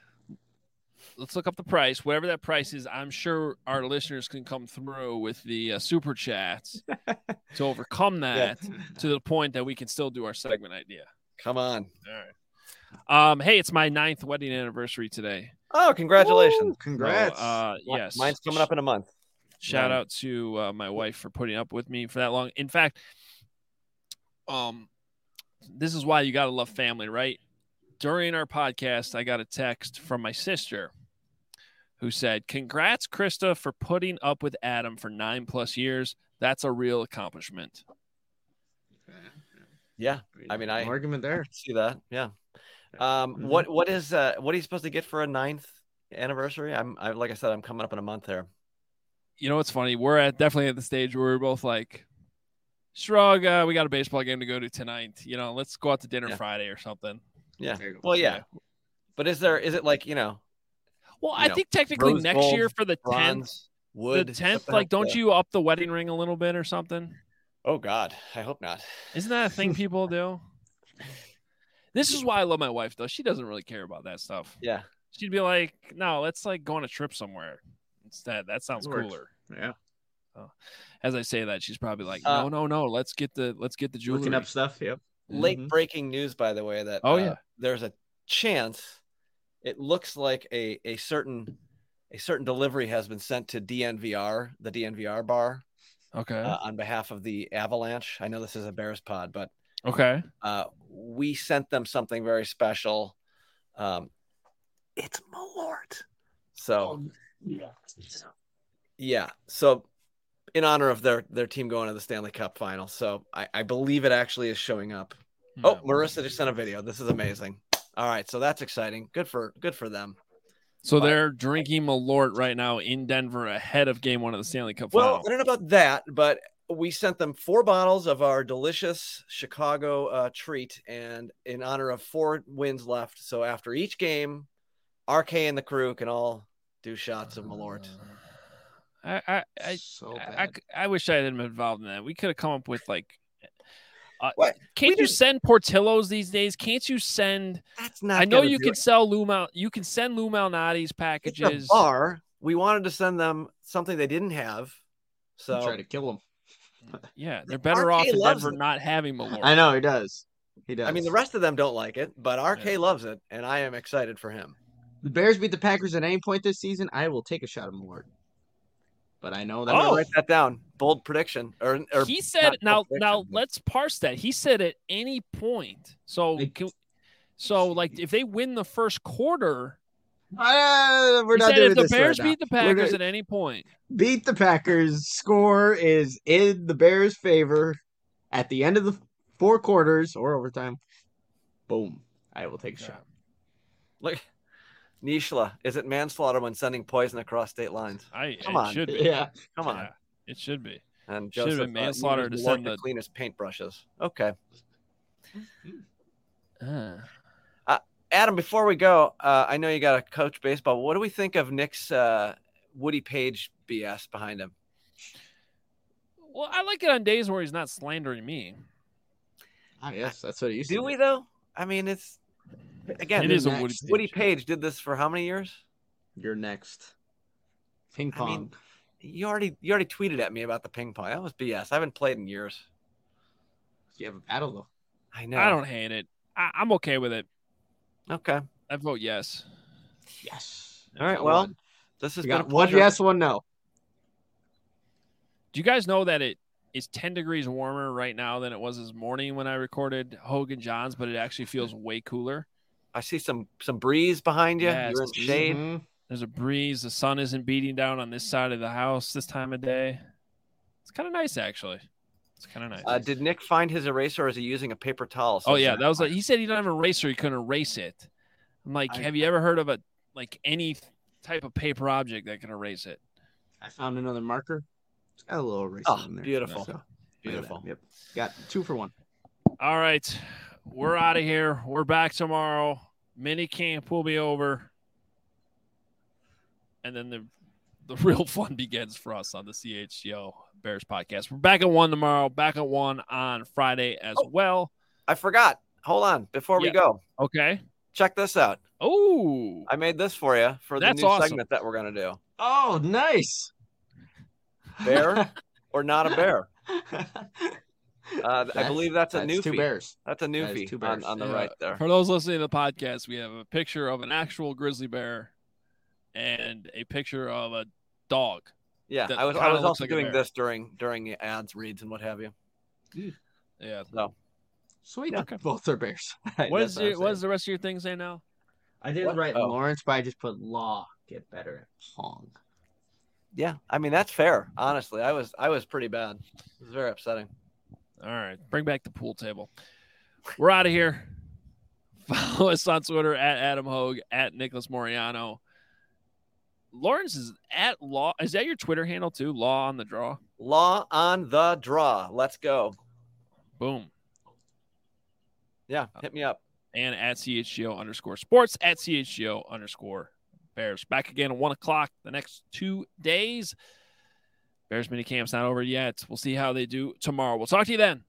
up the price. Whatever that price is, I'm sure our listeners can come through with the super chats to overcome that to the point that we can still do our segment idea. Come on. All right. Hey, it's my 9th wedding anniversary today. Oh, congratulations! Woo, congrats. Yes, mine's coming up in a month. Shout out to my wife for putting up with me for that long. In fact, this is why you got to love family, right? During our podcast, I got a text from my sister who said, "Congrats, Krista, for putting up with Adam for 9+ years. That's a real accomplishment." Yeah, I mean, argument there. I see that. Yeah. What are you supposed to get for a 9th anniversary? Like I said, I'm coming up in a month there. You know what's funny? We're definitely at the stage where we're both like, shrug, we got a baseball game to go to tonight. You know, let's go out to dinner Friday or something. Yeah. Well, yeah. But is it like, Well, I think technically Rose next gold, year for the 10th, bronze, wood, the 10th, like, don't you up the wedding ring a little bit or something? Oh, God. I hope not. Isn't that a thing people do? This is why I love my wife, though. She doesn't really care about that stuff. Yeah. She'd be like, no, let's like go on a trip somewhere instead. That sounds cooler. Yeah. As I say that, she's probably like, no, let's get the jewelry. Looking up stuff. Yep. Late breaking news, by the way, that there's a chance it looks like a certain delivery has been sent to DNVR, the DNVR bar. Okay. On behalf of the Avalanche. I know this is a Bears pod, but okay. We sent them something very special. It's Malort. So yeah. So in honor of their team going to the Stanley Cup final. So I believe it actually is showing up. Oh, Marissa just sent a video. This is amazing. All right. So that's exciting. Good for them. So they're drinking Malort right now in Denver ahead of game 1 of the Stanley Cup final. Well, I don't know about that, but we sent them 4 bottles of our delicious Chicago treat, and in honor of 4 wins left. So after each game, RK and the crew can all do shots of Malort. I wish I had been involved in that. We could have come up with like. Can't you send Portillo's these days? Can't you send? That's not. I know you can sell Lou Mal. You can send Lou Malnati's packages. It's a bar. We wanted to send them something they didn't have, so try to kill them. Yeah, they're better off in Denver not having Malort. I know he does. He does. I mean, the rest of them don't like it, but RK loves it, and I am excited for him. The Bears beat the Packers at any point this season, I will take a shot of Malort. But I know that. I'm gonna write that down. Bold prediction. Or he said. Now let's parse that. He said at any point. So like if they win the first quarter, we're not doing if the this Bears right now. beat the Packers at any point, beat the Packers. Score is in the Bears' favor at the end of the 4 quarters or overtime. Boom! I will take a shot. Look. Nishla, is it manslaughter when sending poison across state lines? Come on. Should be. Yeah. Come on. Yeah, it should be. And Joseph, should have been manslaughter to send the cleanest paintbrushes. Okay. Adam, before we go, I know you got to coach baseball. What do we think of Nick's Woody Page BS behind him? Well, I like it on days where he's not slandering me. Yes, that's what he used to do. Do we, though? I mean, it's... Again, it is a Woody Page did this for how many years? You're next. Ping pong. I mean, you already tweeted at me about the ping pong. That was BS. I haven't played in years. You have a battle though. I know. I don't hate it. I'm okay with it. Okay. I vote yes. Yes. All right. Well, this has been one yes, one no. Do you guys know that it is 10 degrees warmer right now than it was this morning when I recorded Hogan Johns, but it actually feels way cooler? I see some breeze behind you. Yes. You're in shade. Mm-hmm. There's a breeze. The sun isn't beating down on this side of the house this time of day. It's kind of nice, actually. It's kind of nice. Did Nick find his eraser, or is he using a paper towel? Oh, yeah. That was he said he didn't have an eraser. He couldn't erase it. I'm like, have you ever heard of any type of paper object that can erase it? I found another marker. It's got a little eraser in there. Beautiful. So, beautiful. Yep. Got 2 for 1. All right. We're out of here. We're back tomorrow. Mini camp will be over. And then the real fun begins for us on the CHGO Bears podcast. We're back at 1 tomorrow, back at 1 on Friday as well. I forgot. Hold on. Before we go. Okay. Check this out. Oh. I made this for you for the new segment that we're going to do. Oh, nice. Bear or not a bear? I believe that's a newfie. Two bears. That's a newfie on the right there. For those listening to the podcast, we have a picture of an actual grizzly bear and a picture of a dog. Yeah, I was also doing this during the ads reads and what have you. Yeah. So sweet. Okay. Both are bears. What does the rest of your thing say now? I didn't write Lawrence, but I just put law. Get better at Pong. Yeah, I mean that's fair. Honestly, I was pretty bad. It was very upsetting. All right, bring back the pool table. We're out of here. Follow us on Twitter at Adam Hogue, at Nicholas Moriano. Lawrence is at Law. Is that your Twitter handle too? Law on the draw. Law on the draw. Let's go. Boom. Yeah, hit me up. And at CHGO_sports, at CHGO_Bears. Back again at 1 o'clock the next 2 days. Bears mini camp's not over yet. We'll see how they do tomorrow. We'll talk to you then.